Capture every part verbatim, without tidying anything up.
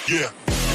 Yeah.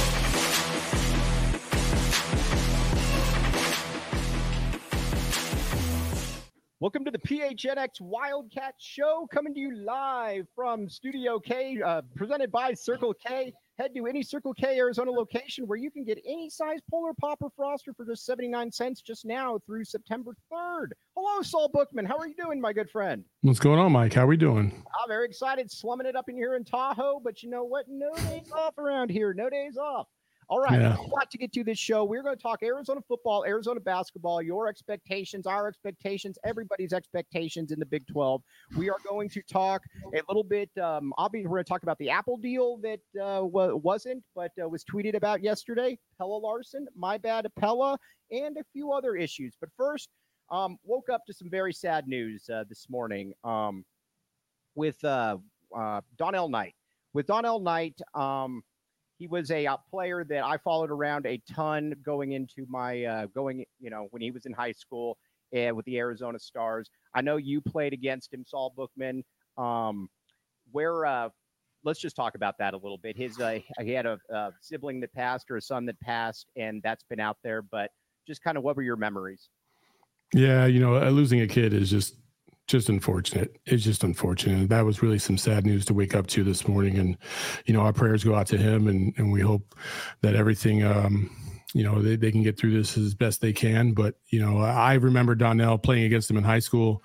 Welcome to the P H N X Wildcat Show, coming to you live from Studio K, uh, presented by Circle K. Head to any Circle K Arizona location where you can get any size Polar Pop or Froster for just seventy-nine cents just now through September third. Hello, Saul Bookman. How are you doing, my good friend? What's going on, Mike? How are we doing? I'm very excited, slumming it up in here in Tahoe, but you know what? No days off around here. No days off. All right, Yeah. a lot to get to this show. We're going to talk Arizona football, Arizona basketball, your expectations, our expectations, everybody's expectations in the Big twelve. We are going to talk a little bit. Um, obviously, we're going to talk about the Apple deal that uh, w- wasn't, but uh, was tweeted about yesterday. Pella Larson, my bad, Pella, and a few other issues. But first, um, woke up to some very sad news uh, this morning um, with uh, uh, Donnell Knight. With Donnell Knight, um, he was a uh, player that I followed around a ton going into my uh, going, you know, when he was in high school uh, with the Arizona Stars. I know you played against him, Saul Bookman. Um, where, uh, let's just talk about that a little bit. His, uh, he had a, a sibling that passed or a son that passed, and that's been out there. But just kind of, what were your memories? Yeah, you know, losing a kid is just just unfortunate. It's just unfortunate. That was really some sad news to wake up to this morning. And, you know, our prayers go out to him, and, and we hope that everything, um, you know, they, they can get through this as best they can. But, you know, I remember Donnell playing against him in high school.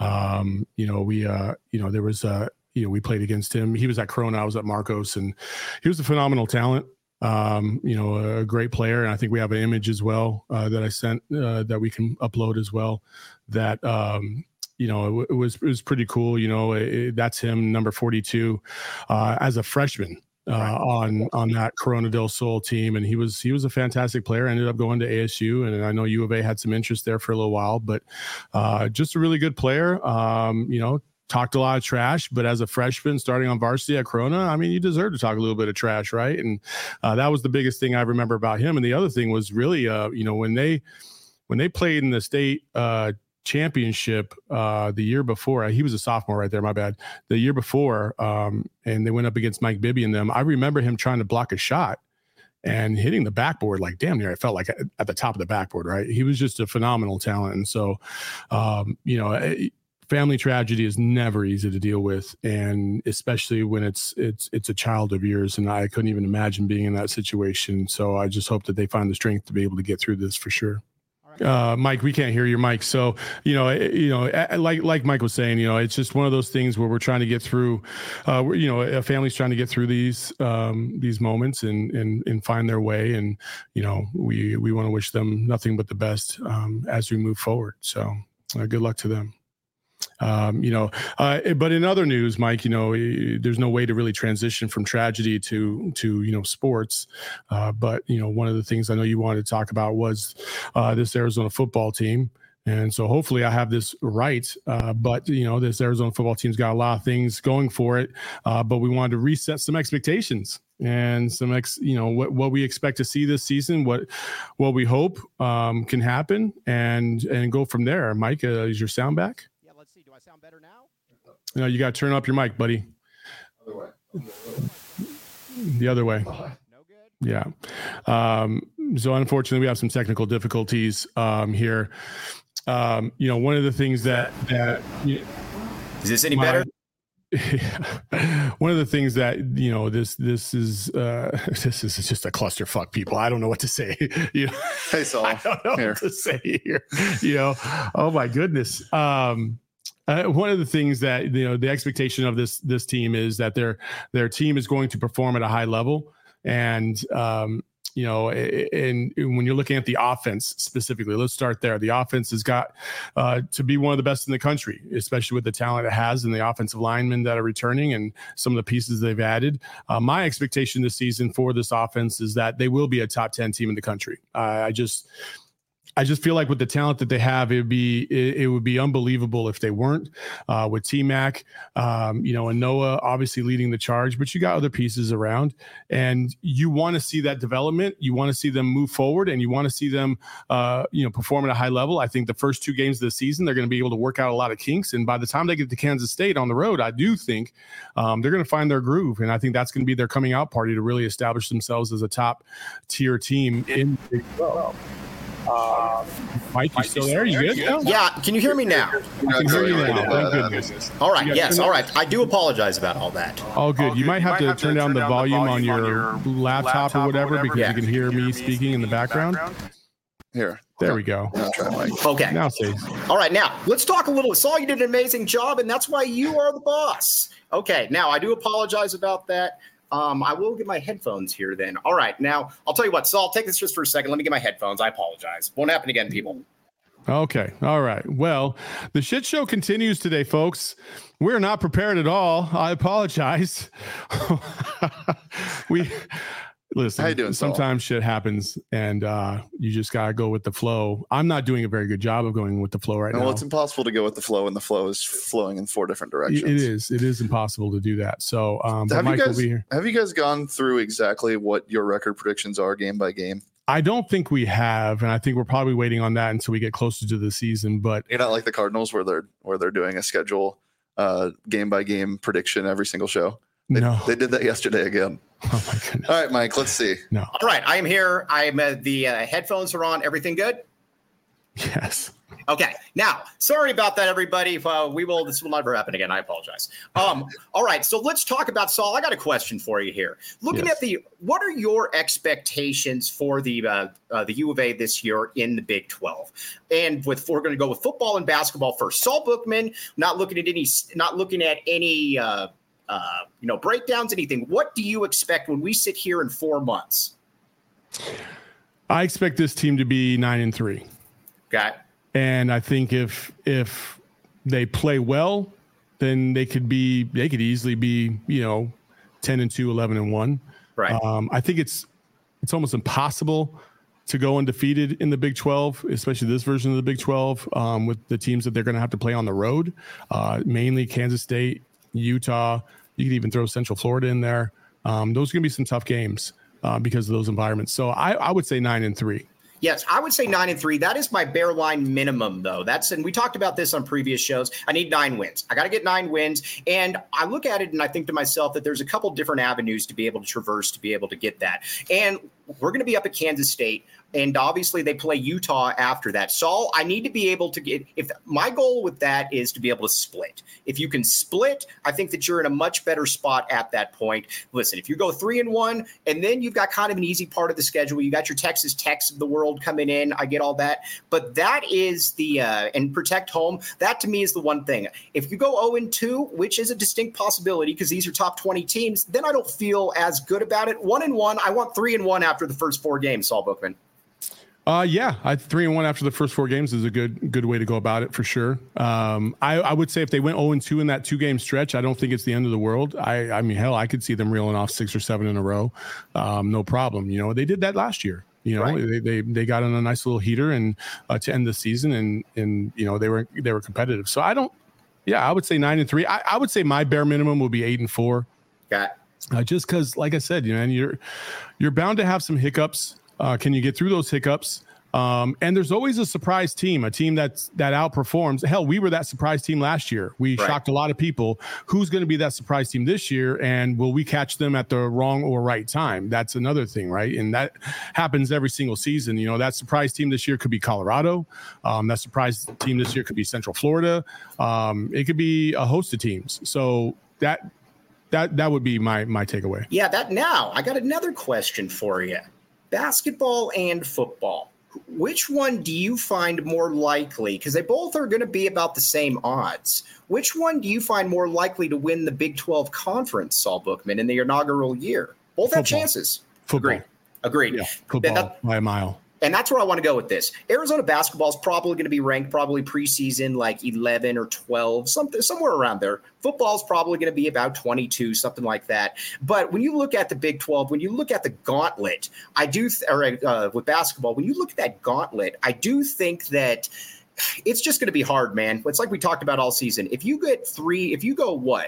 Um, you know, we, uh, you know, there was, uh, you know, we played against him. He was at Corona. I was at Marcos, and he was a phenomenal talent. Um, you know, a great player. And I think we have an image as well uh, that I sent uh, that we can upload as well. That, um, you know, it, it was it was pretty cool. You know, it, that's him, number forty-two, uh, as a freshman uh, right. on on that Corona del Sol team, and he was he was a fantastic player. Ended up going to A S U, and I know U of A had some interest there for a little while, but uh, just a really good player. Um, you know. Talked a lot of trash, but as a freshman starting on varsity at Corona, I mean, you deserve to talk a little bit of trash, right? And uh, that was the biggest thing I remember about him. And the other thing was really, uh, you know, when they when they played in the state uh, championship uh, the year before, he was a sophomore right there, my bad. The year before, um, and they went up against Mike Bibby and them. I remember him trying to block a shot and hitting the backboard like damn near. I felt like at the top of the backboard, right? He was just a phenomenal talent, and so, um, you know. It, Family tragedy is never easy to deal with, and especially when it's it's it's a child of yours. And I couldn't even imagine being in that situation. So I just hope that they find the strength to be able to get through this for sure. Uh, Mike, we can't hear your mic. So, you know, you know, like like Mike was saying, you know, it's just one of those things where we're trying to get through. Uh, we're, you know, a family's trying to get through these um, these moments and and and find their way. And you know, we we want to wish them nothing but the best um, as we move forward. So, uh, good luck to them. Um, you know, uh, but in other news, Mike, you know, there's no way to really transition from tragedy to, to, you know, sports. Uh, but, you know, one of the things I know you wanted to talk about was uh, this Arizona football team. And so hopefully I have this right. Uh, but, you know, this Arizona football team's got a lot of things going for it. Uh, but we wanted to reset some expectations and some, ex, you know, what, what we expect to see this season, what, what we hope um, can happen, and, and go from there. Mike, uh, is your sound back? Do I sound better now? No, you got to turn up your mic, buddy. Other way. The other way. No good. Yeah. Um, so unfortunately, we have some technical difficulties um, here. Um, you know, one of the things that that you know, is this any my, better? One of the things that, you know, this this is uh, this is just a clusterfuck, people. I don't know what to say. You know, Hey, Saul. I don't know Here. what to say here. You know, oh my goodness. Um, Uh, one of the things that, you know, the expectation of this this team is that their their team is going to perform at a high level, and um, you know, and, and when you're looking at the offense specifically, let's start there. The offense has got uh, to be one of the best in the country, especially with the talent it has and the offensive linemen that are returning and some of the pieces they've added. Uh, my expectation this season for this offense is that they will be a top ten team in the country. Uh, I just. I just feel like with the talent that they have, it would be it, it would be unbelievable if they weren't. Uh, with T-Mac, um, you know, and Noah obviously leading the charge, but you got other pieces around, and you want to see that development. You want to see them move forward, and you want to see them, uh, you know, perform at a high level. I think the first two games of the season, they're going to be able to work out a lot of kinks, and by the time they get to Kansas State on the road, I do think um, they're going to find their groove, and I think that's going to be their coming out party to really establish themselves as a top tier team in the Big twelve. Uh, Mike, you still there? You good? Yeah. yeah. Can you hear me now? I can hear you now. Thank goodness. All right. Yes. All right. I do apologize about all that. All good. All good. You might have, you might to, have turn to turn down the volume, volume on, your on your laptop, laptop or whatever, or whatever because yeah. you can hear me speaking in the background. Here. There we go. Okay. Now see. All right. Now let's talk a little. Saul, you did an amazing job, and that's why you are the boss. Okay. Now I do apologize about that. Um, I will get my headphones here then. All right. Now, I'll tell you what, Saul, take this just for a second. Let me get my headphones. I apologize. Won't happen again, people. Okay. All right. Well, the shit show continues today, folks. We're not prepared at all. I apologize. we listen. How you doing, sometimes Saul? Shit happens, and uh, you just gotta go with the flow. I'm not doing a very good job of going with the flow right no, now. Well, it's impossible to go with the flow, and the flow is flowing in four different directions. It is. It is impossible to do that. So, um, have, Mike you guys, will be here. have you guys gone through exactly what your record predictions are game by game? I don't think we have, and I think we're probably waiting on that until we get closer to the season. But you're not like the Cardinals, where they're where they're doing a schedule, uh, game by game prediction every single show. They, no, they did that yesterday again. Oh my goodness! All right, Mike, let's see. No. All right, I am here. I am. Uh, the uh, headphones are on. Everything good? Yes. Okay. Now, sorry about that, everybody. Uh, we will. This will never happen again. I apologize. Um. All right. So let's talk about Saul. I got a question for you here. Looking yes. at the, what are your expectations for the uh, uh, the U of A this year in the Big twelve? And with we're going to go with football and basketball first. Saul Bookman, not looking at any, not looking at any, uh, uh, you know, breakdowns, anything. What do you expect when we sit here in four months? I expect this team to be nine and three. Okay. And I think if if they play well, then they could be they could easily be, you know, ten and two, eleven and one. Right. Um, I think it's it's almost impossible to go undefeated in the Big twelve, especially this version of the Big twelve, um, with the teams that they're going to have to play on the road, uh, mainly Kansas State, Utah. You could even throw Central Florida in there. Um, those are going to be some tough games uh, because of those environments. So I, I would say nine and three. Yes, I would say nine and three. That is my bare line minimum, though. That's and we talked about this on previous shows. I need nine wins. I got to get nine wins. And I look at it and I think to myself that there's a couple different avenues to be able to traverse to be able to get that. And we're going to be up at Kansas State. And obviously they play Utah after that. Saul, I need to be able to get – if my goal with that is to be able to split. If you can split, I think that you're in a much better spot at that point. Listen, if you go three and one, and then you've got kind of an easy part of the schedule. You got your Texas Techs of the world coming in. I get all that. But that is the uh, – and protect home. That to me is the one thing. If you go oh and two, which is a distinct possibility because these are top twenty teams, then I don't feel as good about it. One and one, I want three and one after the first four games, Saul Bookman. Uh, yeah, I three and one after the first four games is a good good way to go about it for sure. Um, I, I would say if they went oh and two in that two game stretch, I don't think it's the end of the world. I, I mean, hell, I could see them reeling off six or seven in a row, um, no problem. You know, they did that last year. You know, right. they, they they got on a nice little heater and uh, to end the season, and and you know they were they were competitive. So I don't. Yeah, I would say nine and three. I, I would say my bare minimum would be eight and four. Got uh, just because, like I said, you know, and you're you're bound to have some hiccups. Uh, can you get through those hiccups? Um, and there's always a surprise team, a team that's that outperforms. Hell, we were that surprise team last year. We right. shocked a lot of people. Who's going to be that surprise team this year? And will we catch them at the wrong or right time? That's another thing, right? And that happens every single season. You know, that surprise team this year could be Colorado. Um, that surprise team this year could be Central Florida. Um, it could be a host of teams. So that that that would be my my takeaway. Yeah, that now I got another question for you. Basketball and football. Which one do you find more likely? Because they both are going to be about the same odds. Which one do you find more likely to win the Big twelve conference, Saul Bookman, in the inaugural year? Both Football. have chances. Football. Agreed. Agreed. Yeah, football that, by a mile. And that's where I want to go with this. Arizona basketball is probably going to be ranked probably preseason like eleven or twelve, something somewhere around there. Football is probably going to be about twenty-two, something like that. But when you look at the Big twelve, when you look at the gauntlet, I do, th- or uh, with basketball, when you look at that gauntlet, I do think that it's just going to be hard, man. It's like we talked about all season. If you get three, if you go what?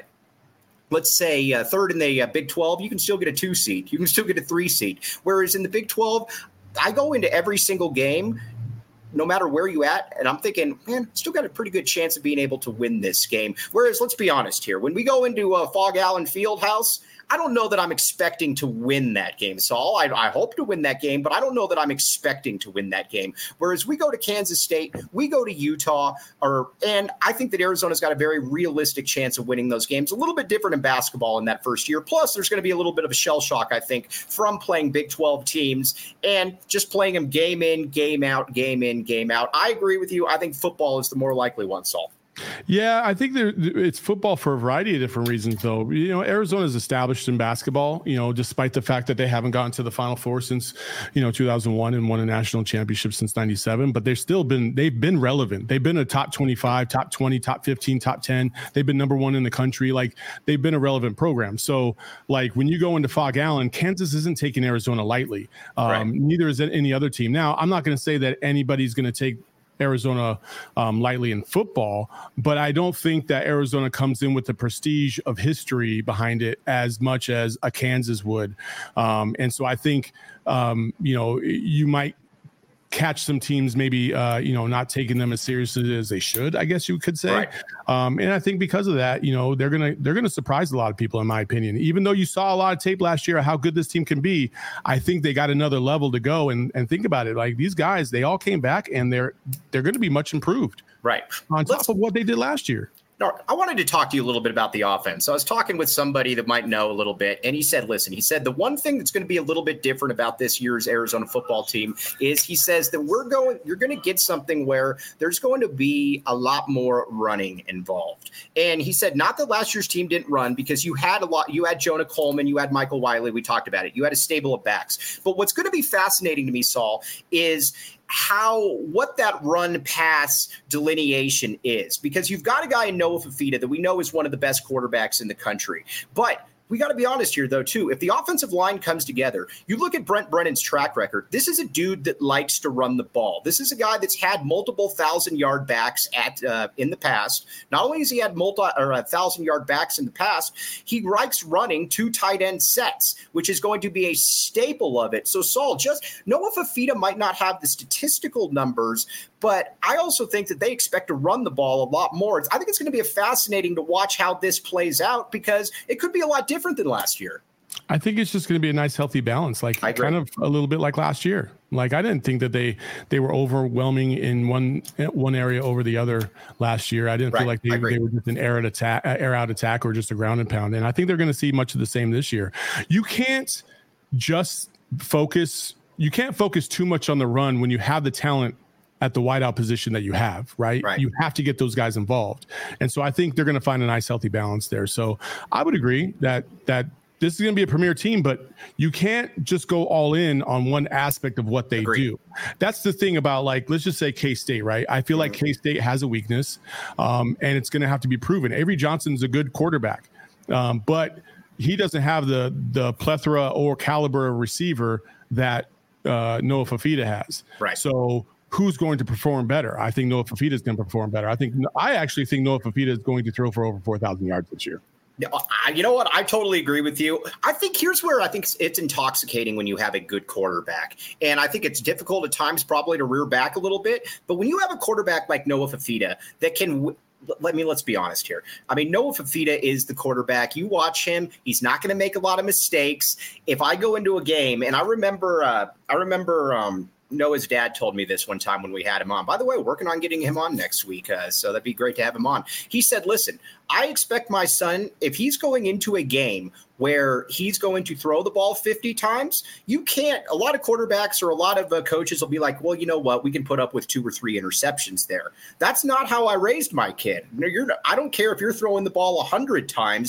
Let's say uh, third in the uh, Big twelve, you can still get a two seed. You can still get a three seed. Whereas in the Big twelve, I go into every single game, no matter where you at, and I'm thinking, man, still got a pretty good chance of being able to win this game. Whereas, let's be honest here, when we go into uh, Fog Allen Fieldhouse, I don't know that I'm expecting to win that game, Saul. I, I hope to win that game, but I don't know that I'm expecting to win that game. Whereas we go to Kansas State, we go to Utah, or and I think that Arizona's got a very realistic chance of winning those games. A little bit different in basketball in that first year. Plus, there's going to be a little bit of a shell shock, I think, from playing Big twelve teams and just playing them game in, game out, game in, game out. I agree with you. I think football is the more likely one, Saul. Yeah, I think there, it's football for a variety of different reasons, though. You know, Arizona is established in basketball, you know, despite the fact that they haven't gotten to the Final Four since, you know, two thousand one and won a national championship since ninety-seven. But they've still been, they've been relevant. They've been a top twenty-five, top twenty, top fifteen, top ten. They've been number one in the country. Like, they've been a relevant program. So, like, when you go into Fog Allen, Kansas isn't taking Arizona lightly. Um, right. Neither is any other team. Now, I'm not going to say that anybody's going to take Arizona um, lightly in football, but I don't think that Arizona comes in with the prestige of history behind it as much as a Kansas would. Um, and so I think, um, you know, you might catch some teams maybe, uh, you know, not taking them as seriously as they should, I guess you could say. Right. Um, and I think because of that, you know, they're going to, they're going to surprise a lot of people, in my opinion. Even though you saw a lot of tape last year of how good this team can be, I think they got another level to go. And, and think about it. Like, these guys, they all came back and they're, they're going to be much improved. Right. On top Let's, of what they did last year. No, I wanted to talk to you a little bit about the offense. So I was talking with somebody that might know a little bit, and he said, listen, he said the one thing that's going to be a little bit different about this year's Arizona football team is he says that we're going, you're going to get something where there's going to be a lot more running involved. And he said, not that last year's team didn't run, because you had a lot, you had Jonah Coleman, you had Michael Wiley, we talked about it. You had a stable of backs. But what's going to be fascinating to me, Saul, is how what that run pass delineation is, because you've got a guy in Noah Fifita that we know is one of the best quarterbacks in the country. But we got to be honest here, though, too. If the offensive line comes together, you look at Brent Brennan's track record. This is a dude that likes to run the ball. This is a guy that's had multiple thousand-yard backs at uh, in the past. Not only has he had multi or a thousand-yard backs in the past, he likes running two tight end sets, which is going to be a staple of it. So, Saul, just Noah Fifita might not have the statistical numbers, but I also think that they expect to run the ball a lot more. It's, I think it's going to be a fascinating to watch how this plays out, because it could be a lot different than last year. I think it's just going to be a nice, healthy balance, like kind of a little bit like last year. Like, I didn't think that they they were overwhelming in one one area over the other last year. I didn't right. feel like they, they were just an air, attack, air out attack or just a ground and pound. And I think they're going to see much of the same this year. You can't just focus. You can't focus too much on the run when you have the talent at the wideout position that you have, right? right? You have to get those guys involved. And so I think they're going to find a nice, healthy balance there. So I would agree that that this is going to be a premier team, but you can't just go all in on one aspect of what they Agreed. do. That's the thing about, like, let's just say K-State, right? I feel like K-State has a weakness, um, and it's going to have to be proven. Avery Johnson's a good quarterback, um, but he doesn't have the the plethora or caliber of receiver that uh, Noah Fifita has. Right. So who's going to perform better? I think Noah Fifita is going to perform better. I think I actually think Noah Fifita is going to throw for over four thousand yards this year. You know what? I totally agree with you. I think here's where I think it's intoxicating when you have a good quarterback. And I think it's difficult at times probably to rear back a little bit. But when you have a quarterback like Noah Fifita that can – let me let's be honest here. I mean, Noah Fifita is the quarterback. You watch him; he's not going to make a lot of mistakes. If I go into a game, and I remember, uh, I remember um, Noah's dad told me this one time when we had him on. By the way, working on getting him on next week, uh, so that'd be great to have him on. He said, "Listen, I expect my son, if he's going into a game where he's going to throw the ball fifty times, you can't, a lot of quarterbacks or a lot of uh, coaches will be like, well, you know what, we can put up with two or three interceptions there. That's not how I raised my kid. You're, I don't care if you're throwing the ball one hundred times.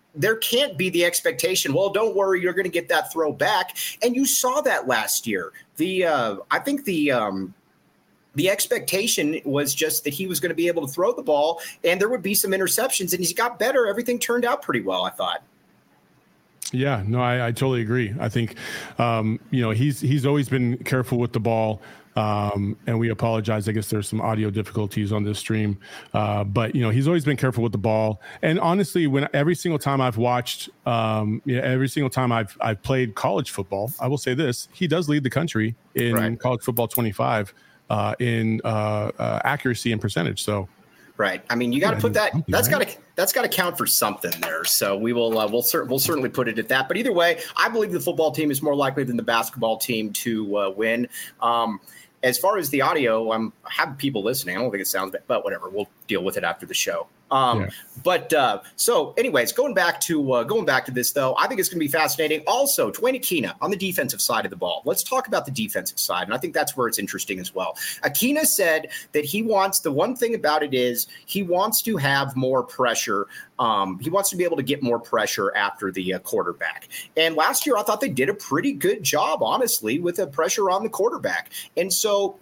there can't be the expectation, well, don't worry, you're going to get that throw back. And you saw that last year. The uh, I think the um, the expectation was just that he was going to be able to throw the ball and there would be some interceptions, and he's got better. Everything turned out pretty well, I thought. Yeah, no, I, I totally agree. I think, um, you know, he's he's always been careful with the ball. Um, and we apologize. I guess there's some audio difficulties on this stream. Uh, but, you know, he's always been careful with the ball. And honestly, when every single time I've watched, um, you know, every single time I've I've played college football, I will say this, he does lead the country in right. college football twenty-five uh, in uh, uh, accuracy and percentage. So. Right. I mean, you got to put that. That's got to that's got to count for something there. So we will uh, we'll cer- we'll certainly put it at that. But either way, I believe the football team is more likely than the basketball team to uh, win. Um, as far as the audio, I'm I have people listening. I don't think it sounds bad, but whatever. We'll deal with it after the show. Um, yeah. But uh, so, anyways, going back to uh, going back to this though, I think it's going to be fascinating. Also, Dwayne Akina on the defensive side of the ball. Let's talk about the defensive side, and I think that's where it's interesting as well. Akina said that he wants the one thing about it is he wants to have more pressure. Um, he wants to be able to get more pressure after the uh, quarterback. And last year, I thought they did a pretty good job, honestly, with the pressure on the quarterback. And so.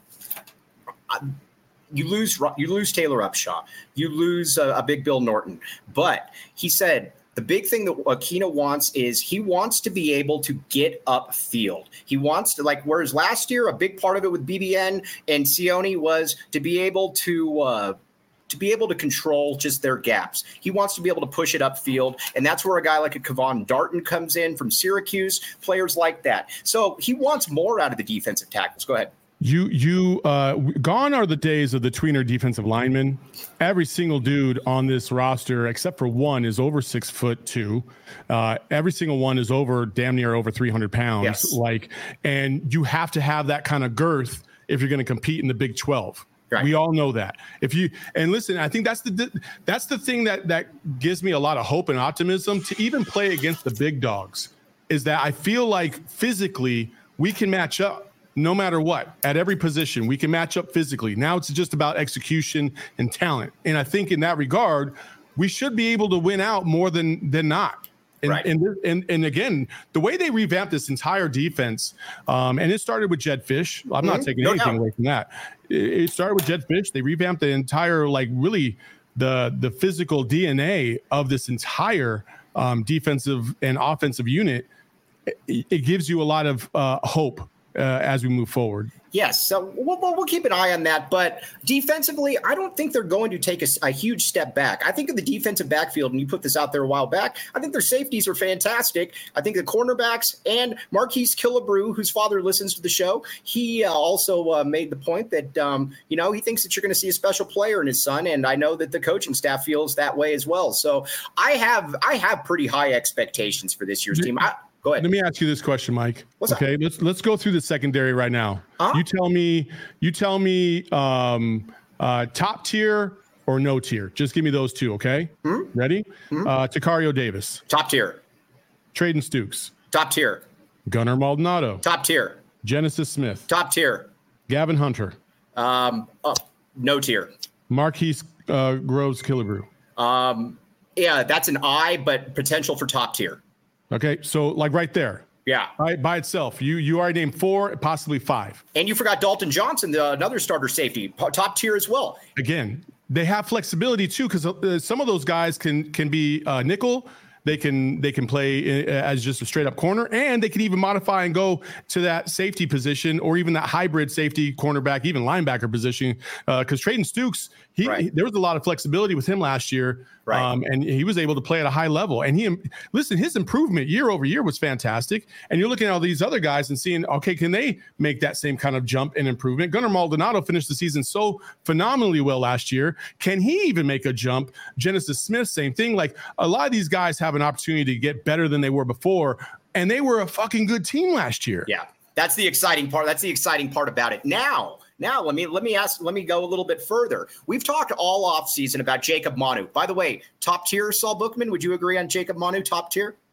I, You lose you lose Taylor Upshaw. You lose a, a big Bill Norton. But he said the big thing that Akina wants is he wants to be able to get upfield. He wants to, like, whereas last year, a big part of it with B B N and Sione was to be able to uh, to be able to control just their gaps. He wants to be able to push it upfield, and that's where a guy like a Kevon Darton comes in from Syracuse, players like that. So he wants more out of the defensive tackles. Go ahead. You, you, uh, gone are the days of the tweener defensive linemen. Every single dude on this roster, except for one, is over six foot two. Uh, every single one is over damn near over three hundred pounds. Yes. Like, and you have to have that kind of girth if you're going to compete in the Big twelve. Right. We all know that. If you and listen, I think that's the that's the thing that that gives me a lot of hope and optimism to even play against the big dogs. Is that I feel like physically we can match up. No matter what, at every position, we can match up physically. Now it's just about execution and talent. And I think in that regard, we should be able to win out more than than not. And, right. and, and, and again, the way they revamped this entire defense, um, and it started with Jedd Fisch. I'm mm-hmm. not taking no anything doubt. away from that. It, it started with Jedd Fisch. They revamped the entire, like really the, the physical D N A of this entire um, defensive and offensive unit. It, it gives you a lot of uh, hope. Uh, as we move forward. Yes, so we'll, we'll keep an eye on that. But defensively, I don't think they're going to take a, a huge step back. I think of the defensive backfield, and you put this out there a while back, I think their safeties are fantastic. I think the cornerbacks and Marquise Killebrew, whose father listens to the show, he uh, also uh, made the point that, um, you know, he thinks that you're going to see a special player in his son, and I know that the coaching staff feels that way as well. So I have I have pretty high expectations for this year's team. I, Go ahead. Let me ask you this question, Mike. What's okay, up? let's let's go through the secondary right now. Huh? You tell me, you tell me, um, uh, top tier or no tier. Just give me those two, okay? Mm-hmm. Ready? Mm-hmm. Uh, Tacario Davis. Top tier. Trayden Stukes. Top tier. Gunnar Maldonado. Top tier. Genesis Smith. Top tier. Gavin Hunter. Um, oh, no tier. Marquise uh, Groves Killebrew. Um, yeah, that's an I, but potential for top tier. Okay, so like right there. Yeah. Right, by itself. You you already named four, possibly five. And you forgot Dalton Johnson, the, another starter safety, top tier as well. Again, they have flexibility too, because uh, some of those guys can can be uh, nickel. They can they can play as just a straight up corner, and they can even modify and go to that safety position or even that hybrid safety cornerback, even linebacker position. Because uh, Trayden Stukes, he, right. he there was a lot of flexibility with him last year, right. um, and he was able to play at a high level. And he listen, his improvement year over year was fantastic. And you're looking at all these other guys and seeing, okay, can they make that same kind of jump and improvement? Gunnar Maldonado finished the season so phenomenally well last year. Can he even make a jump? Genesis Smith, same thing. Like a lot of these guys have an opportunity to get better than they were before, and they were a fucking good team last year. Yeah, that's the exciting part. That's the exciting part about it. Now, now let me let me ask. Let me go a little bit further. We've talked all offseason about Jacob Manu. By the way, top tier, Saul Bookman. Would you agree on Jacob Manu, top tier?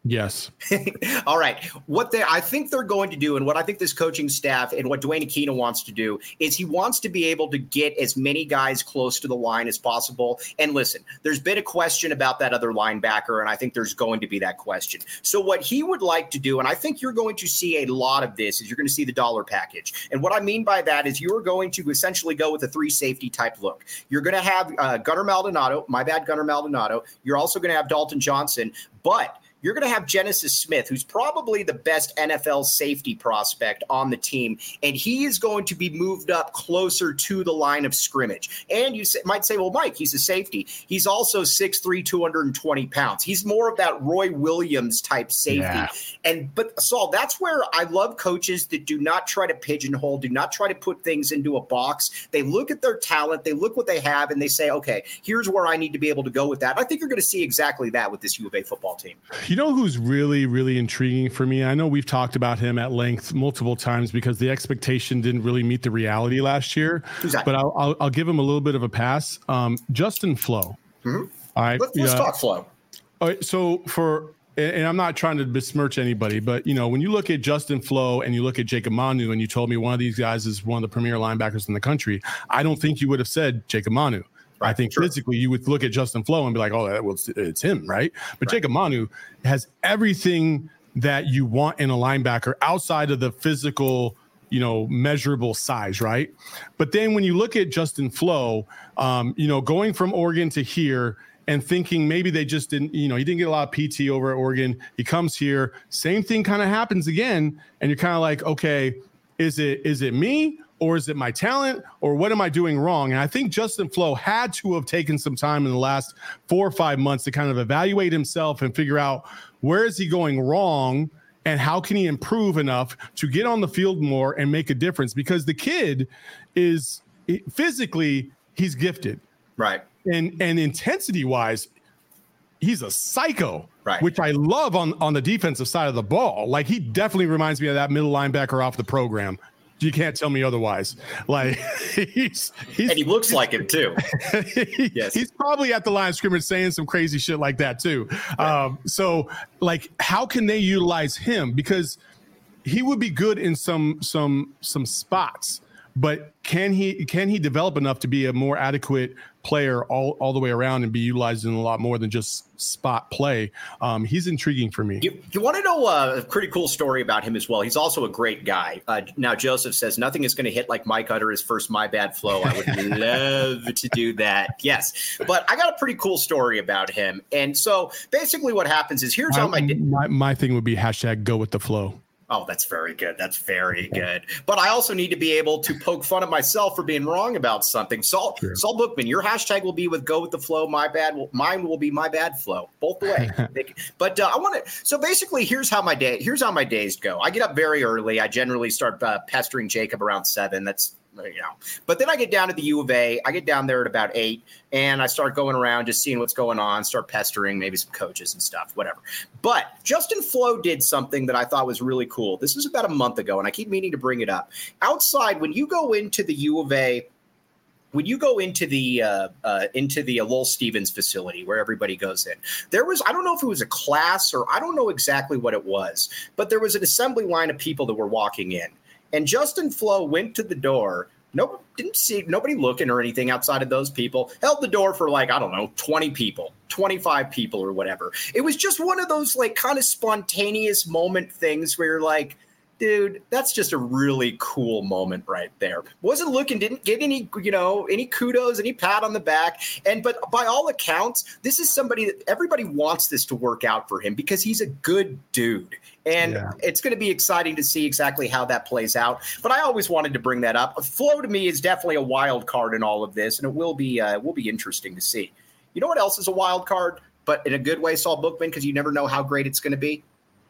Yes. All right. What they, I think they're going to do, and what I think this coaching staff and what Dwayne Aquino wants to do, is he wants to be able to get as many guys close to the line as possible. And listen, there's been a question about that other linebacker, and I think there's going to be that question. So what he would like to do, and I think you're going to see a lot of this, is you're going to see the dollar package. And what I mean by that is you're going to essentially go with a three safety type look. You're going to have uh, Gunnar Maldonado, my bad, Gunnar Maldonado. You're also going to have Dalton Johnson, but you're going to have Genesis Smith, who's probably the best N F L safety prospect on the team, and he is going to be moved up closer to the line of scrimmage. And you might say, well, Mike, he's a safety. He's also six three, two hundred twenty pounds. He's more of that Roy Williams type safety. Yeah. And but Saul, that's where I love coaches that do not try to pigeonhole, do not try to put things into a box. They look at their talent, they look what they have, and they say, okay, here's where I need to be able to go with that. I think you're going to see exactly that with this U of A football team. You know who's really, really intriguing for me? I know we've talked about him at length multiple times because the expectation didn't really meet the reality last year. Exactly. But I'll, I'll, I'll give him a little bit of a pass. Um, Justin Flowe. Mm-hmm. All right. Let's, let's uh, talk Flowe. All right, so for and I'm not trying to besmirch anybody, but you know, when you look at Justin Flowe and you look at Jacob Manu, and you told me one of these guys is one of the premier linebackers in the country, I don't think you would have said Jacob Manu. Right, I think sure. physically you would look at Justin Flowe and be like, oh, that was, it's him, right? But right. Jacob Manu has everything that you want in a linebacker outside of the physical, you know, measurable size, right? But then when you look at Justin Flowe, um, you know, going from Oregon to here and thinking maybe they just didn't, you know, he didn't get a lot of P T over at Oregon. He comes here, same thing kind of happens again. And you're kind of like, okay, is it is it me? Or is it my talent, or what am I doing wrong? And I think Justin Flowe had to have taken some time in the last four or five months to kind of evaluate himself and figure out where is he going wrong and how can he improve enough to get on the field more and make a difference, because the kid is physically, he's gifted. Right. And, and intensity wise, he's a psycho. Right. Which I love on, on the defensive side of the ball. Like, he definitely reminds me of that middle linebacker off the program. You can't tell me otherwise. Like, he's, he's and he looks like him too. Yes, he's probably at the line of scrimmage saying some crazy shit like that too. Right. Um, so, like, how can they utilize him? Because he would be good in some some some spots, but can he can he develop enough to be a more adequate player all, all the way around and be utilized in a lot more than just spot play? Um, he's intriguing for me. You, you want to know uh, a pretty cool story about him as well? He's also a great guy. Uh, now, Joseph says, nothing is going to hit like Mike utter his first My Bad Flow. I would love to do that. Yes. But I got a pretty cool story about him. And so basically what happens is here's my, how my, my my thing would be hashtag go with the flow. Oh, that's very good. That's very good. But I also need to be able to poke fun at myself for being wrong about something. Saul, True. Saul Bookman, your hashtag will be with go with the flow. My bad. Mine will be my bad flow. Both the way. But uh, I want to. So basically, here's how my day. Here's how my days go. I get up very early. I generally start uh, pestering Jacob around seven. That's. You know, but then I get down to the U of A. I get down there at about eight, and I start going around just seeing what's going on, start pestering maybe some coaches and stuff, whatever. But Justin Flowe did something that I thought was really cool. This was about a month ago, and I keep meaning to bring it up. Outside, when you go into the U of A, when you go into the uh, uh, into the uh, Lowell Stevens facility where everybody goes in, there was, I don't know if it was a class or I don't know exactly what it was, but there was an assembly line of people that were walking in. And Justin Flowe went to the door. No, didn't see nobody looking or anything outside of those people. Held the door for like, I don't know, twenty people, twenty-five people or whatever. It was just one of those like kind of spontaneous moment things where you're like, dude, that's just a really cool moment right there. Wasn't looking, didn't get any, you know, any kudos, any pat on the back. And but by all accounts, this is somebody that everybody wants this to work out for him because he's a good dude. And yeah. It's going to be exciting to see exactly how that plays out. But I always wanted to bring that up. Flow to me is definitely a wild card in all of this, and it will be uh, will be interesting to see. You know what else is a wild card, but in a good way, Saul Bookman, because you never know how great it's going to be?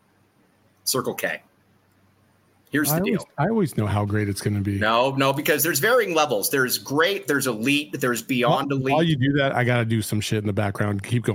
Circle K. Here's the I deal. Always, I always know how great it's going to be. No, no, because there's varying levels. There's great, there's elite, there's beyond while, elite. While you do that, I got to do some shit in the background. Keep going.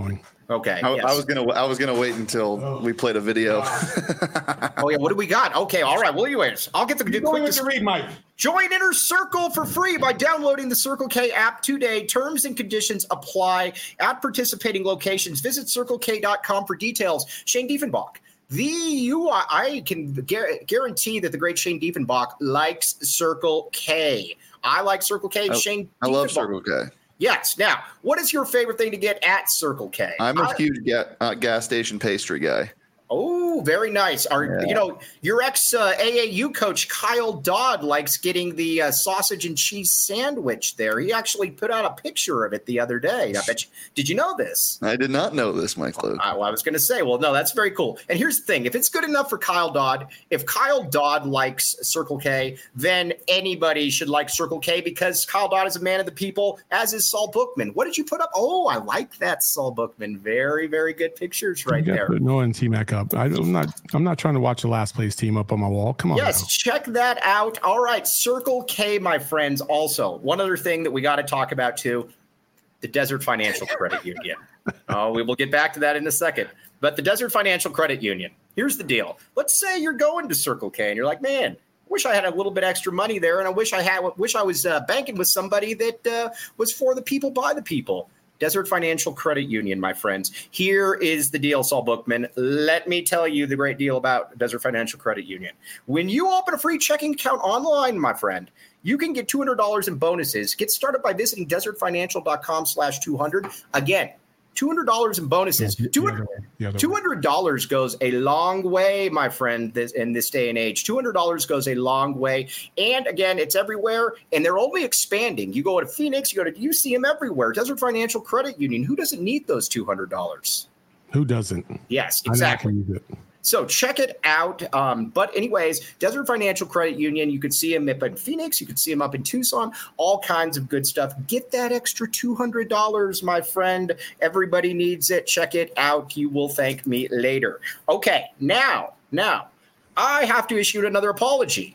Okay. I, yes. I was gonna I was gonna wait until oh. we played a video. Oh yeah, what do we got? Okay, all right. Well, anyways, I'll get the quick going to read, Mike. Join Inner Circle for free by downloading the Circle K app today. Terms and conditions apply at participating locations. Visit circle k dot com for details. Shane Diefenbach. The you I can gu- guarantee that the great Shane Diefenbach likes Circle K. I like Circle K. I, Shane I love Circle K. Yes. Now, what is your favorite thing to get at Circle K? I'm a I, huge ga- uh, gas station pastry guy. Oh, very nice. Our, yeah. You know, your ex uh, A A U coach, Kyle Dodd, likes getting the uh, sausage and cheese sandwich there. He actually put out a picture of it the other day. I bet you, did you know this? I did not know this, Mike Luke. Uh, well, I was going to say, well, no, that's very cool. And here's the thing. If it's good enough for Kyle Dodd, if Kyle Dodd likes Circle K, then anybody should like Circle K because Kyle Dodd is a man of the people, as is Saul Bookman. What did you put up? Oh, I like that, Saul Bookman. Very, very good pictures right there. Noah and T-Mac up. I, I'm not. I'm not trying to watch the last place team up on my wall. Come on. Yes, now. Check that out. All right, Circle K, my friends. Also, one other thing that we got to talk about too: the Desert Financial Credit Union. Oh, we will get back to that in a second. But the Desert Financial Credit Union. Here's the deal. Let's say you're going to Circle K and you're like, man, I wish I had a little bit extra money there, and I wish I had. Wish I was uh, banking with somebody that uh, was for the people, by the people. Desert Financial Credit Union, my friends. Here is the deal, Saul Bookman. Let me tell you the great deal about Desert Financial Credit Union. When you open a free checking account online, my friend, you can get two hundred dollars in bonuses. Get started by visiting desert financial dot com slash two hundred. Again, two hundred dollars in bonuses. two hundred dollars goes a long way, my friend, this, in this day and age. two hundred dollars goes a long way. And again, it's everywhere, and they're only expanding. You go to Phoenix, you go to, you see them everywhere. Desert Financial Credit Union. Who doesn't need those two hundred dollars? Who doesn't? Yes, exactly. So check it out. Um, but anyways, Desert Financial Credit Union, you could see them up in Phoenix. You could see them up in Tucson, all kinds of good stuff. Get that extra two hundred dollars, my friend. Everybody needs it. Check it out. You will thank me later. Okay, now, now, I have to issue another apology.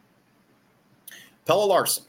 Pelle Larsson.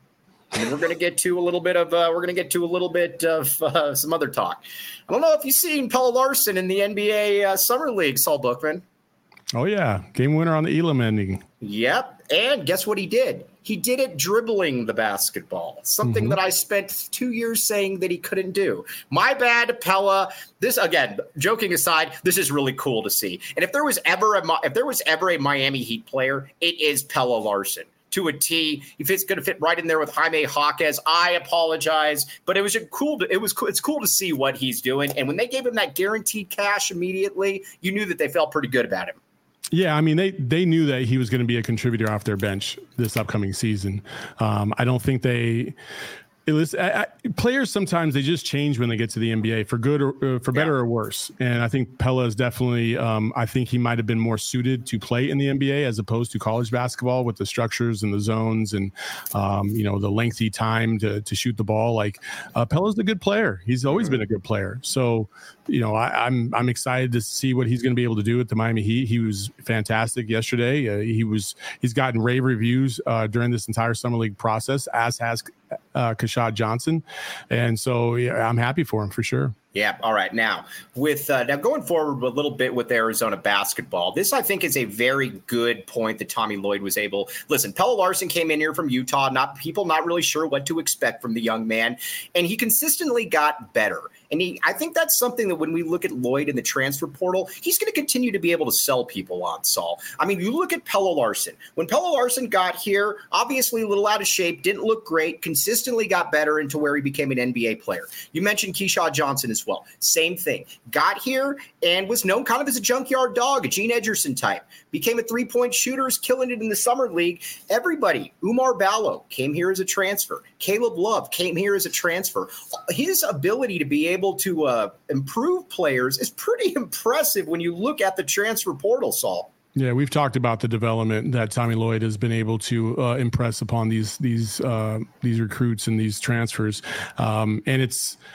And we're going to get to a little bit of uh, we're going to get to a little bit of uh, some other talk. I don't know if you've seen Pelle Larsson in the N B A uh, Summer League, Saul Bookman. Oh yeah, game winner on the Elam ending. Yep, and guess what he did? He did it dribbling the basketball, something mm-hmm. that I spent two years saying that he couldn't do. My bad, Pelle. This again, joking aside, this is really cool to see. And if there was ever a if there was ever a Miami Heat player, it is Pelle Larsson. To a T, if it's going to fit right in there with Jaime Jaquez, I apologize, but it was a cool. To, it was cool. It's cool to see what he's doing, and when they gave him that guaranteed cash immediately, you knew that they felt pretty good about him. Yeah, I mean, they they knew that he was going to be a contributor off their bench this upcoming season. Um, I don't think they. It was, I, I, players sometimes they just change when they get to the N B A for good or uh, for better yeah. or worse. And I think Pelle is definitely, um, I think he might have been more suited to play in the N B A as opposed to college basketball with the structures and the zones and, um, you know, the lengthy time to to shoot the ball. Like uh, Pelle's a good player. He's always been a good player. So, you know, I, I'm I'm excited to see what he's going to be able to do with the Miami Heat. He was fantastic yesterday. Uh, he was he's gotten rave reviews uh, during this entire summer league process, as has uh, Keshad Johnson, and so yeah, I'm happy for him for sure. Yeah. All right. Now, with uh, now going forward a little bit with Arizona basketball, this I think is a very good point that Tommy Lloyd was able. Listen, Pelle Larsson came in here from Utah. Not people not really sure what to expect from the young man, and he consistently got better. And he, I think that's something that when we look at Lloyd in the transfer portal, he's going to continue to be able to sell people on, Saul. I mean, you look at Pelle Larsson. When Pelle Larsson got here, obviously a little out of shape, didn't look great, consistently got better into where he became an N B A player. You mentioned Keshad Johnson as well. Same thing. Got here and was known kind of as a junkyard dog, a Gene Edgerson type. Became a three-point shooter, is killing it in the summer league. Everybody, Umar Ballo came here as a transfer. Caleb Love came here as a transfer. His ability to be able to uh, improve players is pretty impressive when you look at the transfer portal, Saul. Yeah, we've talked about the development that Tommy Lloyd has been able to uh, impress upon these these uh, these recruits and these transfers, um, and it's.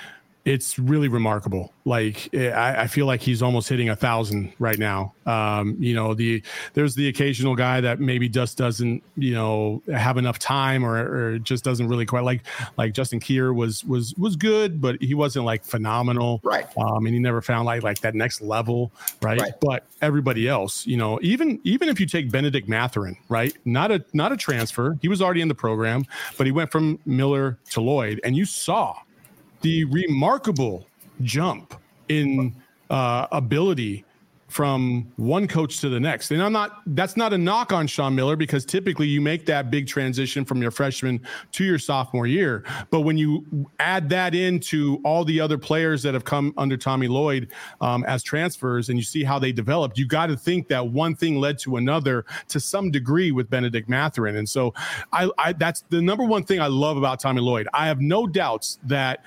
it's really remarkable. Like I, I feel like he's almost hitting a thousand right now. Um, you know, the there's the occasional guy that maybe just doesn't, you know, have enough time or, or just doesn't really quite like like Justin Kier was was was good, but he wasn't like phenomenal. Right. Um, and he never found like like that next level. Right? right. But everybody else, you know, even even if you take Benedict Mathurin, right? Not a not a transfer. He was already in the program, but he went from Miller to Lloyd, and you saw the remarkable jump in uh, ability from one coach to the next. And I'm not, that's not a knock on Sean Miller, because typically you make that big transition from your freshman to your sophomore year. But when you add that into all the other players that have come under Tommy Lloyd um, as transfers, and you see how they developed, you got to think that one thing led to another to some degree with Benedict Mathurin. And so I, I that's the number one thing I love about Tommy Lloyd. I have no doubts that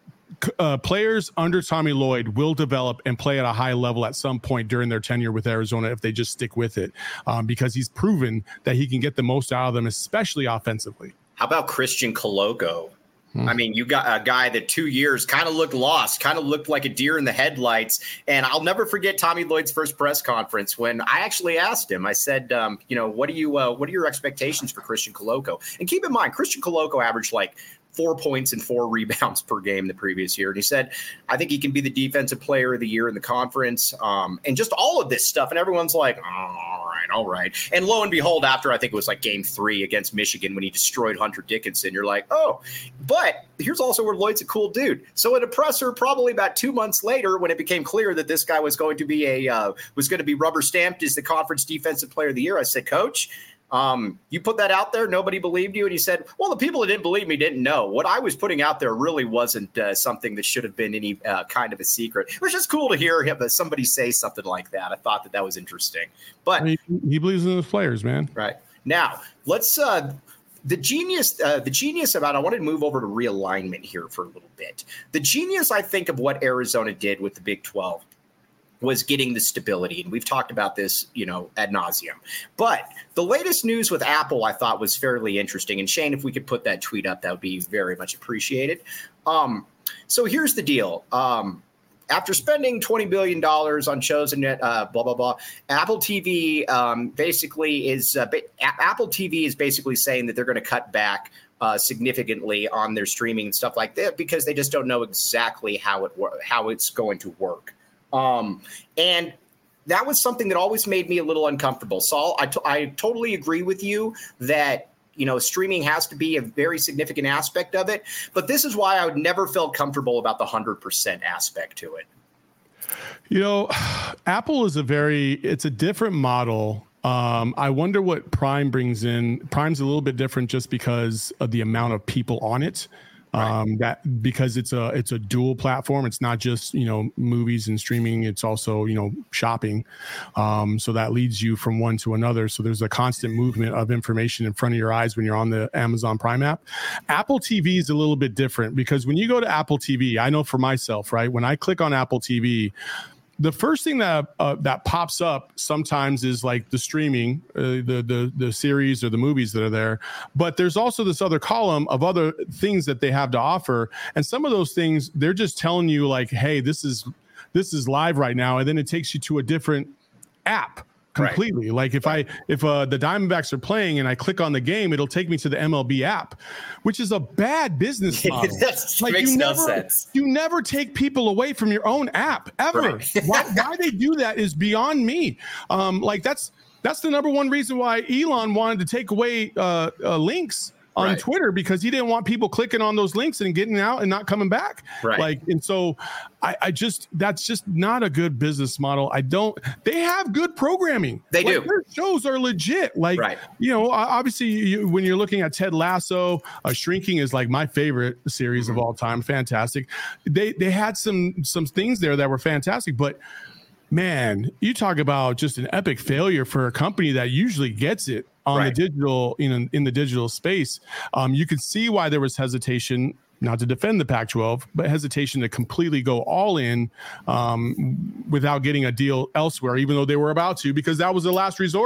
Uh, players under Tommy Lloyd will develop and play at a high level at some point during their tenure with Arizona if they just stick with it, um, because he's proven that he can get the most out of them, especially offensively. How about Christian Coloco? Hmm. I mean, you got a guy that two years kind of looked lost, kind of looked like a deer in the headlights. And I'll never forget Tommy Lloyd's first press conference when I actually asked him, I said, um, you know, what do you, uh, what are your expectations for Christian Coloco? And keep in mind, Christian Coloco averaged like four points and four rebounds per game the previous year. And he said, I think he can be the defensive player of the year in the conference. Um, and just all of this stuff. And everyone's like, oh, all right, all right. And lo and behold, after I think it was like game three against Michigan when he destroyed Hunter Dickinson, you're like, oh, but here's also where Lloyd's a cool dude. So at a presser, probably about two months later, when it became clear that this guy was going to be a, uh, was going to be rubber stamped as the conference defensive player of the year, I said, Coach, Um, you put that out there, nobody believed you. And he said, well, the people that didn't believe me didn't know. What I was putting out there really wasn't uh, something that should have been any uh, kind of a secret. It was just cool to hear him, uh, somebody say something like that. I thought that that was interesting. But I mean, he believes in those players, man. Right. Now, let's uh, the genius, uh, the genius about, I wanted to move over to realignment here for a little bit. The genius, I think, of what Arizona did with the Big twelve was getting the stability. And we've talked about this, you know, ad nauseum. But the latest news with Apple, I thought, was fairly interesting. And Shane, if we could put that tweet up, that would be very much appreciated. Um, so here's the deal. Um, after spending twenty billion dollars on shows and uh, blah, blah, blah, Apple T V um, basically is uh, ba- Apple T V is basically saying that they're going to cut back Uh, significantly on their streaming and stuff like that, because they just don't know exactly how it wor- how it's going to work. Um, and that was something that always made me a little uncomfortable. Saul, I, t- I totally agree with you that, you know, streaming has to be a very significant aspect of it. But this is why I would never felt comfortable about the one hundred percent aspect to it. You know, Apple is a very, it's a different model. Um, I wonder what Prime brings in. Prime's a little bit different just because of the amount of people on it. Um, right. That because it's a it's a dual platform. It's not just, you know, movies and streaming. It's also, you know, shopping. Um, so that leads you from one to another. So there's a constant movement of information in front of your eyes when you're on the Amazon Prime app. Apple T V is a little bit different because when you go to Apple T V, I know for myself, right, when I click on Apple T V, the first thing that uh, that pops up sometimes is like the streaming, uh, the the the series or the movies that are there. But there's also this other column of other things that they have to offer, and some of those things they're just telling you like, "Hey, this is this is live right now," and then it takes you to a different app completely. Right. Like if I if uh, the Diamondbacks are playing and I click on the game, it'll take me to the M L B app, which is a bad business model. That like makes you no never, sense. You never take people away from your own app ever. Right. why, why they do that is beyond me. Um, like that's that's the number one reason why Elon wanted to take away uh, uh, links on right. Twitter, because he didn't want people clicking on those links and getting out and not coming back. Right. Like, and so I, I just, that's just not a good business model. I don't, they have good programming. They like, do. Their shows are legit. Like, right. you know, obviously you, when you're looking at Ted Lasso, uh, Shrinking is like my favorite series mm-hmm. of all time. Fantastic. They, they had some, some things there that were fantastic, but man, you talk about just an epic failure for a company that usually gets it on right. the digital, you know, in the digital space. Um, you can see why there was hesitation, not to defend the Pac twelve, but hesitation to completely go all in um, without getting a deal elsewhere, even though they were about to, because that was the last resort.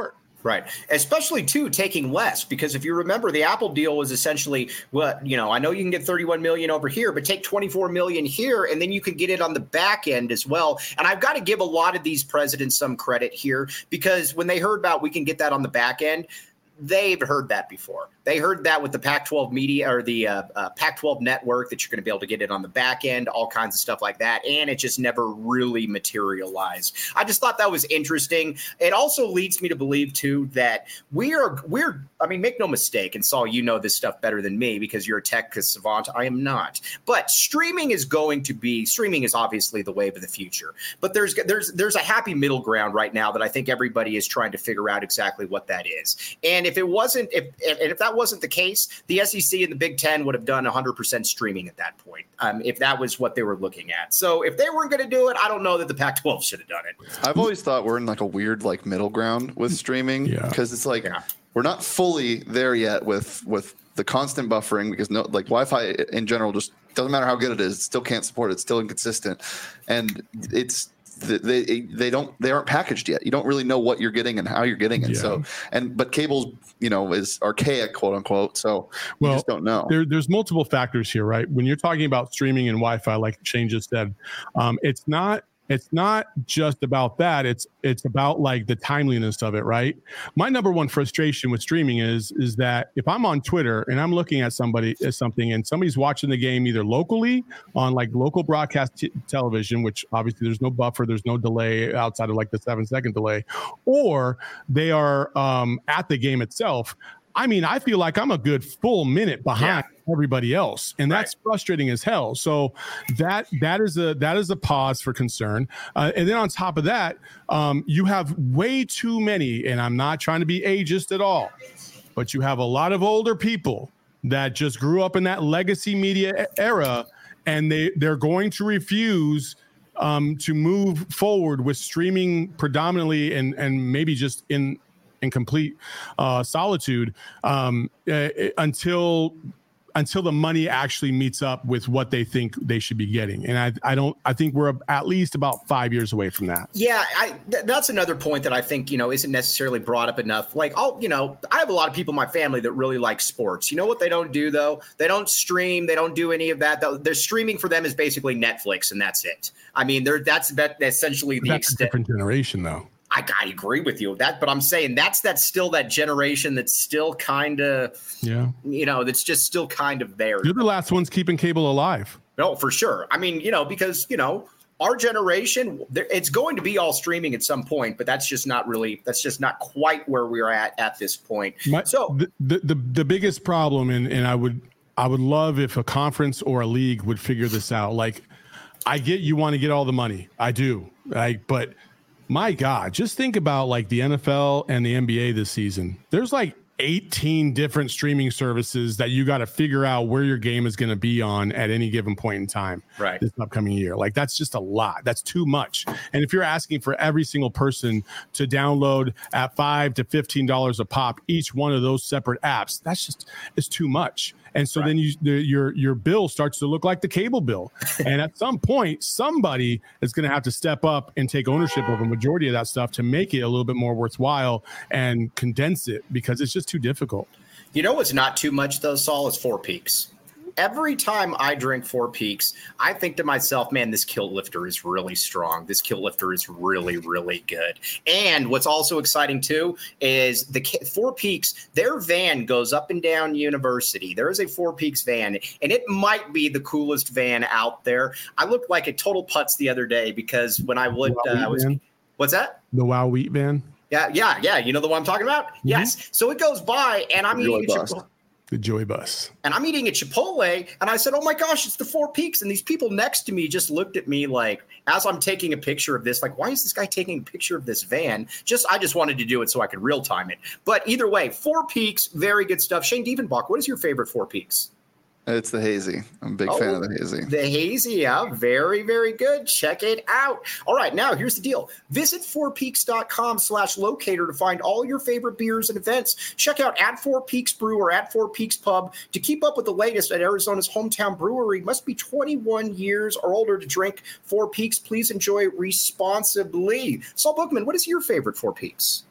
Right. Especially, too, taking less, because if you remember, the Apple deal was essentially, well, you know, I know you can get thirty-one million dollars over here, but take twenty-four million dollars here, and then you can get it on the back end as well. And I've got to give a lot of these presidents some credit here, because when they heard about we can get that on the back end, they've heard that before. They heard that with the Pac twelve media or the uh, uh, Pac twelve network, that you're going to be able to get it on the back end, all kinds of stuff like that. And it just never really materialized. I just thought that was interesting. It also leads me to believe, too, that we are we're I mean, make no mistake. And Saul, you know this stuff better than me because you're a tech savant. I am not. But streaming is going to be streaming is obviously the wave of the future. But there's there's there's a happy middle ground right now that I think everybody is trying to figure out exactly what that is. And if it wasn't if and if that wasn't the case, the S E C and the Big Ten would have done one hundred percent streaming at that point, um, if that was what they were looking at. So if they weren't going to do it, I don't know that the Pac twelve should have done it. I've always thought we're in like a weird like middle ground with streaming, because yeah. it's like yeah. we're not fully there yet with with the constant buffering, because no like Wi-Fi in general just doesn't matter how good it is, it still can't support it, it's still inconsistent, and it's they they don't they aren't packaged yet. You don't really know what you're getting and how you're getting it. Yeah. So and but cables, you know, is archaic, quote unquote. So you well, just don't know. There, there's multiple factors here, right? When you're talking about streaming and Wi-Fi, like Shane just said, um, it's not it's not just about that. It's it's about like the timeliness of it, right? My number one frustration with streaming is is that if I'm on Twitter and I'm looking at somebody at something and somebody's watching the game either locally on like local broadcast t- television, which obviously there's no buffer, there's no delay outside of like the seven second delay, or they are um, at the game itself. I mean, I feel like I'm a good full minute behind yeah. everybody else, and that's right. frustrating as hell. So that that is a that is a pause for concern. Uh, and then on top of that, um, you have way too many, and I'm not trying to be ageist at all, but you have a lot of older people that just grew up in that legacy media era, and they they're going to refuse um, to move forward with streaming predominantly, and and maybe just in. in complete uh, solitude um, uh, until until the money actually meets up with what they think they should be getting. And I, I don't, I think we're at least about five years away from that. Yeah, I, th- that's another point that I think, you know, isn't necessarily brought up enough. Like, I'll, you know, I have a lot of people in my family that really like sports. You know what they don't do, though? They don't stream. They don't do any of that. Their streaming for them is basically Netflix, and that's it. I mean, they're, that's that, essentially the that's extent. A different generation, though. I, I agree with you with that, but I'm saying that's that's still that generation that's still kind of, yeah, you know, that's just still kind of there. You're the last ones keeping cable alive. No, for sure. I mean, you know, because, you know, our generation, it's going to be all streaming at some point, but that's just not really, that's just not quite where we're at at this point. My, so the, the, the, the biggest problem, and, and I would, I would love if a conference or a league would figure this out. Like, I get you want to get all the money. I do. Like, but my God, just think about like the N F L and the N B A this season. There's like eighteen different streaming services that you got to figure out where your game is going to be on at any given point in time. Right. This upcoming year. Like, that's just a lot. That's too much. And if you're asking for every single person to download at five to fifteen dollars a pop, each one of those separate apps, that's just, it's too much. And so right. then you, the, your your bill starts to look like the cable bill. And at some point, somebody is going to have to step up and take ownership of a majority of that stuff to make it a little bit more worthwhile and condense it, because it's just too difficult. You know what's not too much, though, Saul, is Four Peaks. Every time I drink Four Peaks, I think to myself, man, this kilt lifter is really strong. This kilt lifter is really, really good. And what's also exciting, too, is the Four Peaks, their van goes up and down University. There is a Four Peaks van, and it might be the coolest van out there. I looked like a total putz the other day because when I would, uh, I was, what's that? The Wow Wheat van? Yeah, yeah, yeah. You know the one I'm talking about? Mm-hmm. Yes. So it goes by, and I'm eating a Chipotle. The Joy Bus. And I'm eating at Chipotle, and I said, oh my gosh, it's the Four Peaks. And these people next to me just looked at me like, as I'm taking a picture of this, like, why is this guy taking a picture of this van? Just, I just wanted to do it so I could real time it. But either way, Four Peaks, very good stuff. Shane Dievenbach, what is your favorite Four Peaks? It's the Hazy. I'm a big oh, fan of the Hazy. The Hazy, yeah. Very, very good. Check it out. All right, now here's the deal. Visit fourpeaks.com slash locator to find all your favorite beers and events. Check out at Four Peaks Brew or at Four Peaks Pub to keep up with the latest at Arizona's hometown brewery. Must be twenty-one years or older to drink Four Peaks. Please enjoy responsibly. Saul Bookman, what is your favorite Four Peaks?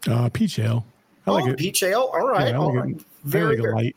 Uh, peach ale. I oh, like it. Peach ale. All right. Yeah, all like right. It. Very, like very. light.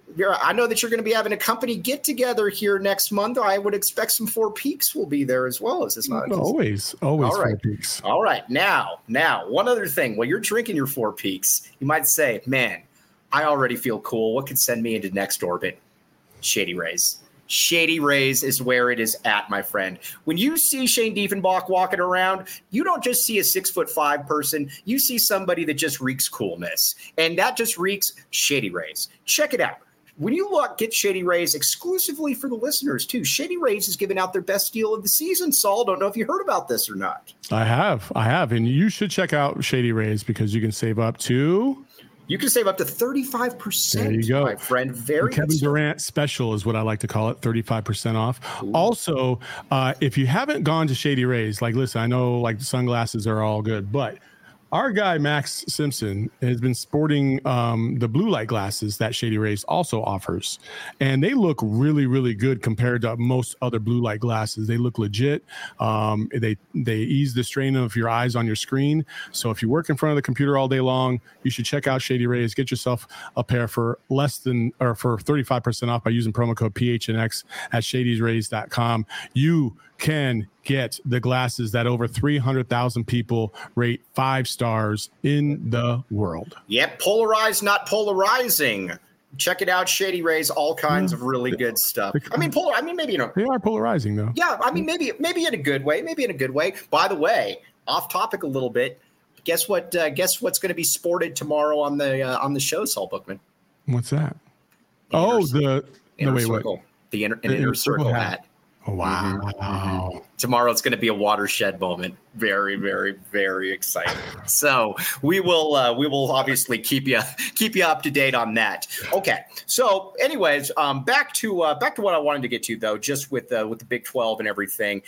I know that you're going to be having a company get together here next month. I would expect some Four Peaks will be there as well. Is this not? Always, always All right. Four Peaks. All right. Now, now, one other thing. While you're drinking your Four Peaks, you might say, man, I already feel cool. What could send me into next orbit? Shady Rays. Shady Rays is where it is at, my friend. When you see Shane Diefenbach walking around, you don't just see a six foot five person. You see somebody that just reeks coolness. And that just reeks Shady Rays. Check it out. When you look, get Shady Rays exclusively for the listeners, too. Shady Rays is giving out their best deal of the season. Saul, don't know if you heard about this or not. I have. I have. And you should check out Shady Rays because you can save up to... You can save up to thirty-five percent, there you go. my friend. Very the Kevin Durant special is what I like to call it, thirty-five percent off. Ooh. Also, uh, if you haven't gone to Shady Rays, like, listen, I know like the sunglasses are all good, but our guy, Max Simpson, has been sporting um, the blue light glasses that Shady Rays also offers. And they look really, really good compared to most other blue light glasses. They look legit. Um, they they ease the strain of your eyes on your screen. So if you work in front of the computer all day long, you should check out Shady Rays. Get yourself a pair for less than or for thirty-five percent off by using promo code P H N X at shady rays dot com. You can get the glasses that over three hundred thousand people rate five stars in the world. Yep, polarized, not polarizing. Check it out, Shady Rays. All kinds yeah. of really good stuff. I mean, polar. I mean, maybe you know they are polarizing though. Yeah, I mean, maybe maybe in a good way. Maybe in a good way. By the way, off topic a little bit. Guess what? Uh, guess what's going to be sported tomorrow on the uh, on the show, Saul Bookman? What's that? Inner oh, the inner no, wait, circle. What? The inner, inner, inner circle, circle hat. hat. Oh, wow. Mm-hmm. Tomorrow it's going to be a watershed moment. Very, very, very exciting. So we will uh, we will obviously keep you keep you up to date on that. Okay. So anyways, um, back to uh, back to what I wanted to get to, though, just with uh, with the Big twelve and everything.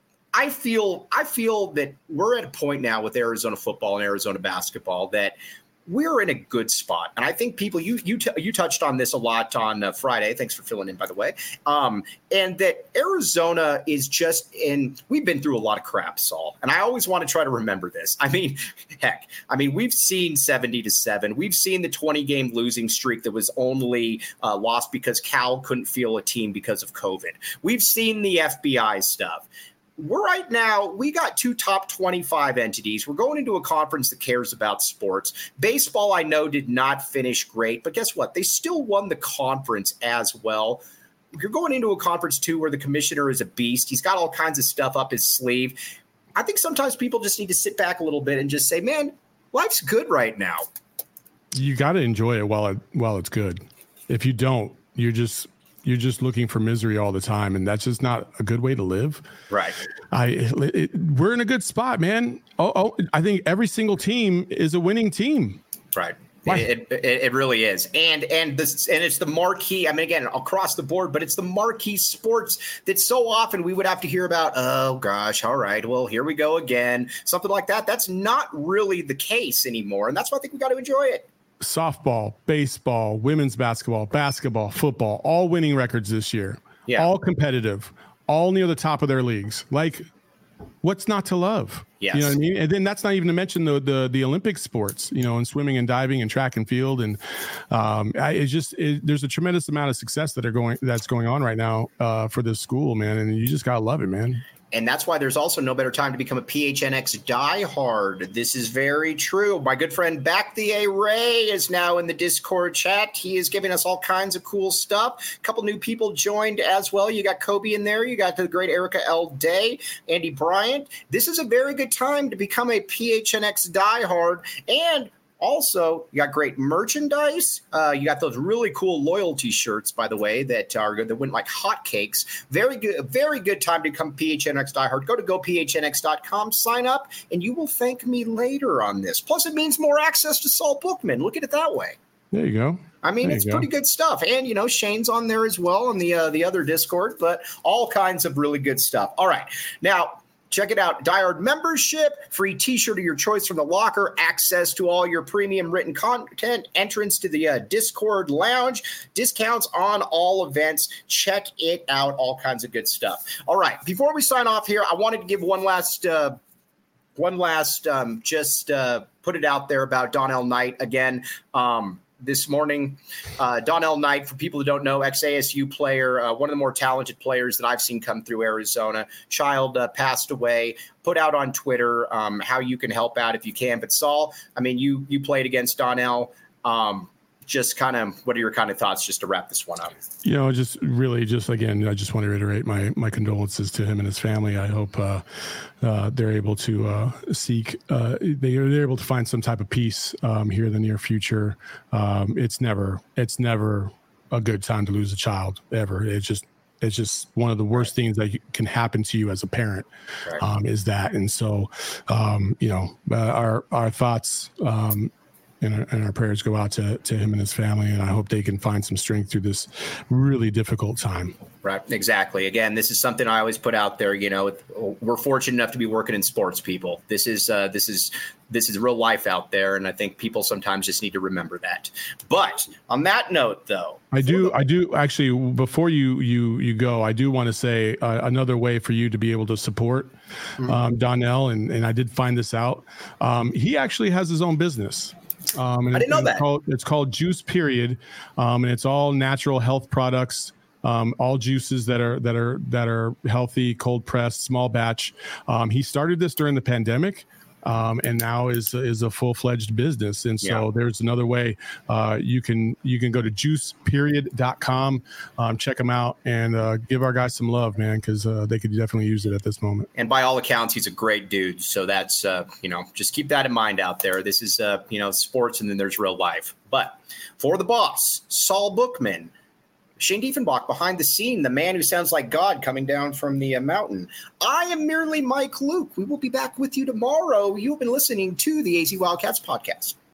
I feel I feel that we're at a point now with Arizona football and Arizona basketball that we're in a good spot. And I think people, you you t- you touched on this a lot on uh, Friday. Thanks for filling in, by the way. Um, and that Arizona is just in, we've been through a lot of crap, Saul. And I always want to try to remember this. I mean, heck, I mean, we've seen seventy to seven. We've seen the twenty game losing streak that was only uh, lost because Cal couldn't field a team because of COVID. We've seen the F B I stuff. We're right now, we got two top twenty-five entities. We're going into a conference that cares about sports. Baseball, I know, did not finish great, but guess what? They still won the conference as well. You're going into a conference, too, where the commissioner is a beast. He's got all kinds of stuff up his sleeve. I think sometimes people just need to sit back a little bit and just say, man, life's good right now. You got to enjoy it while it while it's good. If you don't, you're just – You're just looking for misery all the time, and that's just not a good way to live. Right. I it, we're in a good spot, man. Oh, oh, I think every single team is a winning team. Right. It, it, it really is. And and this and it's the marquee, I mean, again, across the board, but it's the marquee sports that so often we would have to hear about, oh, gosh, all right, well, here we go again, something like that. That's not really the case anymore, and that's why I think we got to enjoy it. Softball, baseball, women's basketball, basketball, football, all winning records this year. Yeah. All competitive, all near the top of their leagues. Like, what's not to love? Yes. You know what I mean? And then that's not even to mention the the the Olympic sports, you know, and swimming and diving and track and field. And um, I, it's just it, there's a tremendous amount of success that are going that's going on right now uh, for this school, man. And you just gotta love it, man. And that's why there's also no better time to become a P H N X diehard. This is very true. My good friend Back the A Ray is now in the Discord chat. He is giving us all kinds of cool stuff. A couple new people joined as well. You got Kobe in there. You got the great Erica L. Day, Andy Bryant. This is a very good time to become a P H N X diehard. And also, you got great merchandise. Uh, you got those really cool loyalty shirts, by the way, that are good, that went like hotcakes. Very good, very good time to become P H N X diehard. Go to go P H N X dot com, sign up, and you will thank me later on this. Plus, it means more access to Saul Bookman. Look at it that way. There you go. I mean, there it's pretty good stuff. And, you know, Shane's on there as well on the uh, the other Discord, but all kinds of really good stuff. All right. Now, check it out. Diehard membership, free t-shirt of your choice from the locker, access to all your premium written content, entrance to the uh, Discord lounge, discounts on all events. Check it out. All kinds of good stuff. All right. Before we sign off here, I wanted to give one last uh, one last, um, just uh, put it out there about Donnell Knight again. Um, This morning, uh, Donnell Knight, for people who don't know, ex-A S U player, uh, one of the more talented players that I've seen come through Arizona. Child uh, passed away. Put out on Twitter um, how you can help out if you can. But Saul, I mean, you you played against Donnell. Um, just kind of, what are your kind of thoughts just to wrap this one up? You know, just really, just again, I just want to reiterate my my condolences to him and his family. I hope uh, uh, they're able to uh, seek, uh, they are they're able to find some type of peace um, here in the near future. Um, it's never, it's never a good time to lose a child ever. It's just, it's just one of the worst things that can happen to you as a parent, right. um, is that. And so, um, you know, uh, our our thoughts. Um, And our, and our prayers go out to, to him and his family, and I hope they can find some strength through this really difficult time. Right, exactly. Again, this is something I always put out there. You know, we're fortunate enough to be working in sports, people. This is uh, this is this is real life out there, and I think people sometimes just need to remember that. But on that note, though, I do I do actually before you you you go, I do want to say uh, another way for you to be able to support mm-hmm. um, Donnell, and and I did find this out. Um, he actually has his own business. Um, and I didn't know it's that. Called, it's called Juice Period, um, and it's all natural health products, um, all juices that are that are that are healthy, cold pressed, small batch. Um, he started this during the pandemic. Um, and now is is a full fledged business, and so yeah. there's another way uh, you can you can go to juice period dot com, um, check them out, and uh, give our guys some love, man, because uh, they could definitely use it at this moment. And by all accounts, he's a great dude. So that's uh, you know just keep that in mind out there. This is uh, you know sports, and then there's real life. But for the boss, Saul Bookman. Shane Diefenbach behind the scene, the man who sounds like God coming down from the uh, mountain. I am merely Mike Luke. We will be back with you tomorrow. You've been listening to the A Z Wildcats podcast.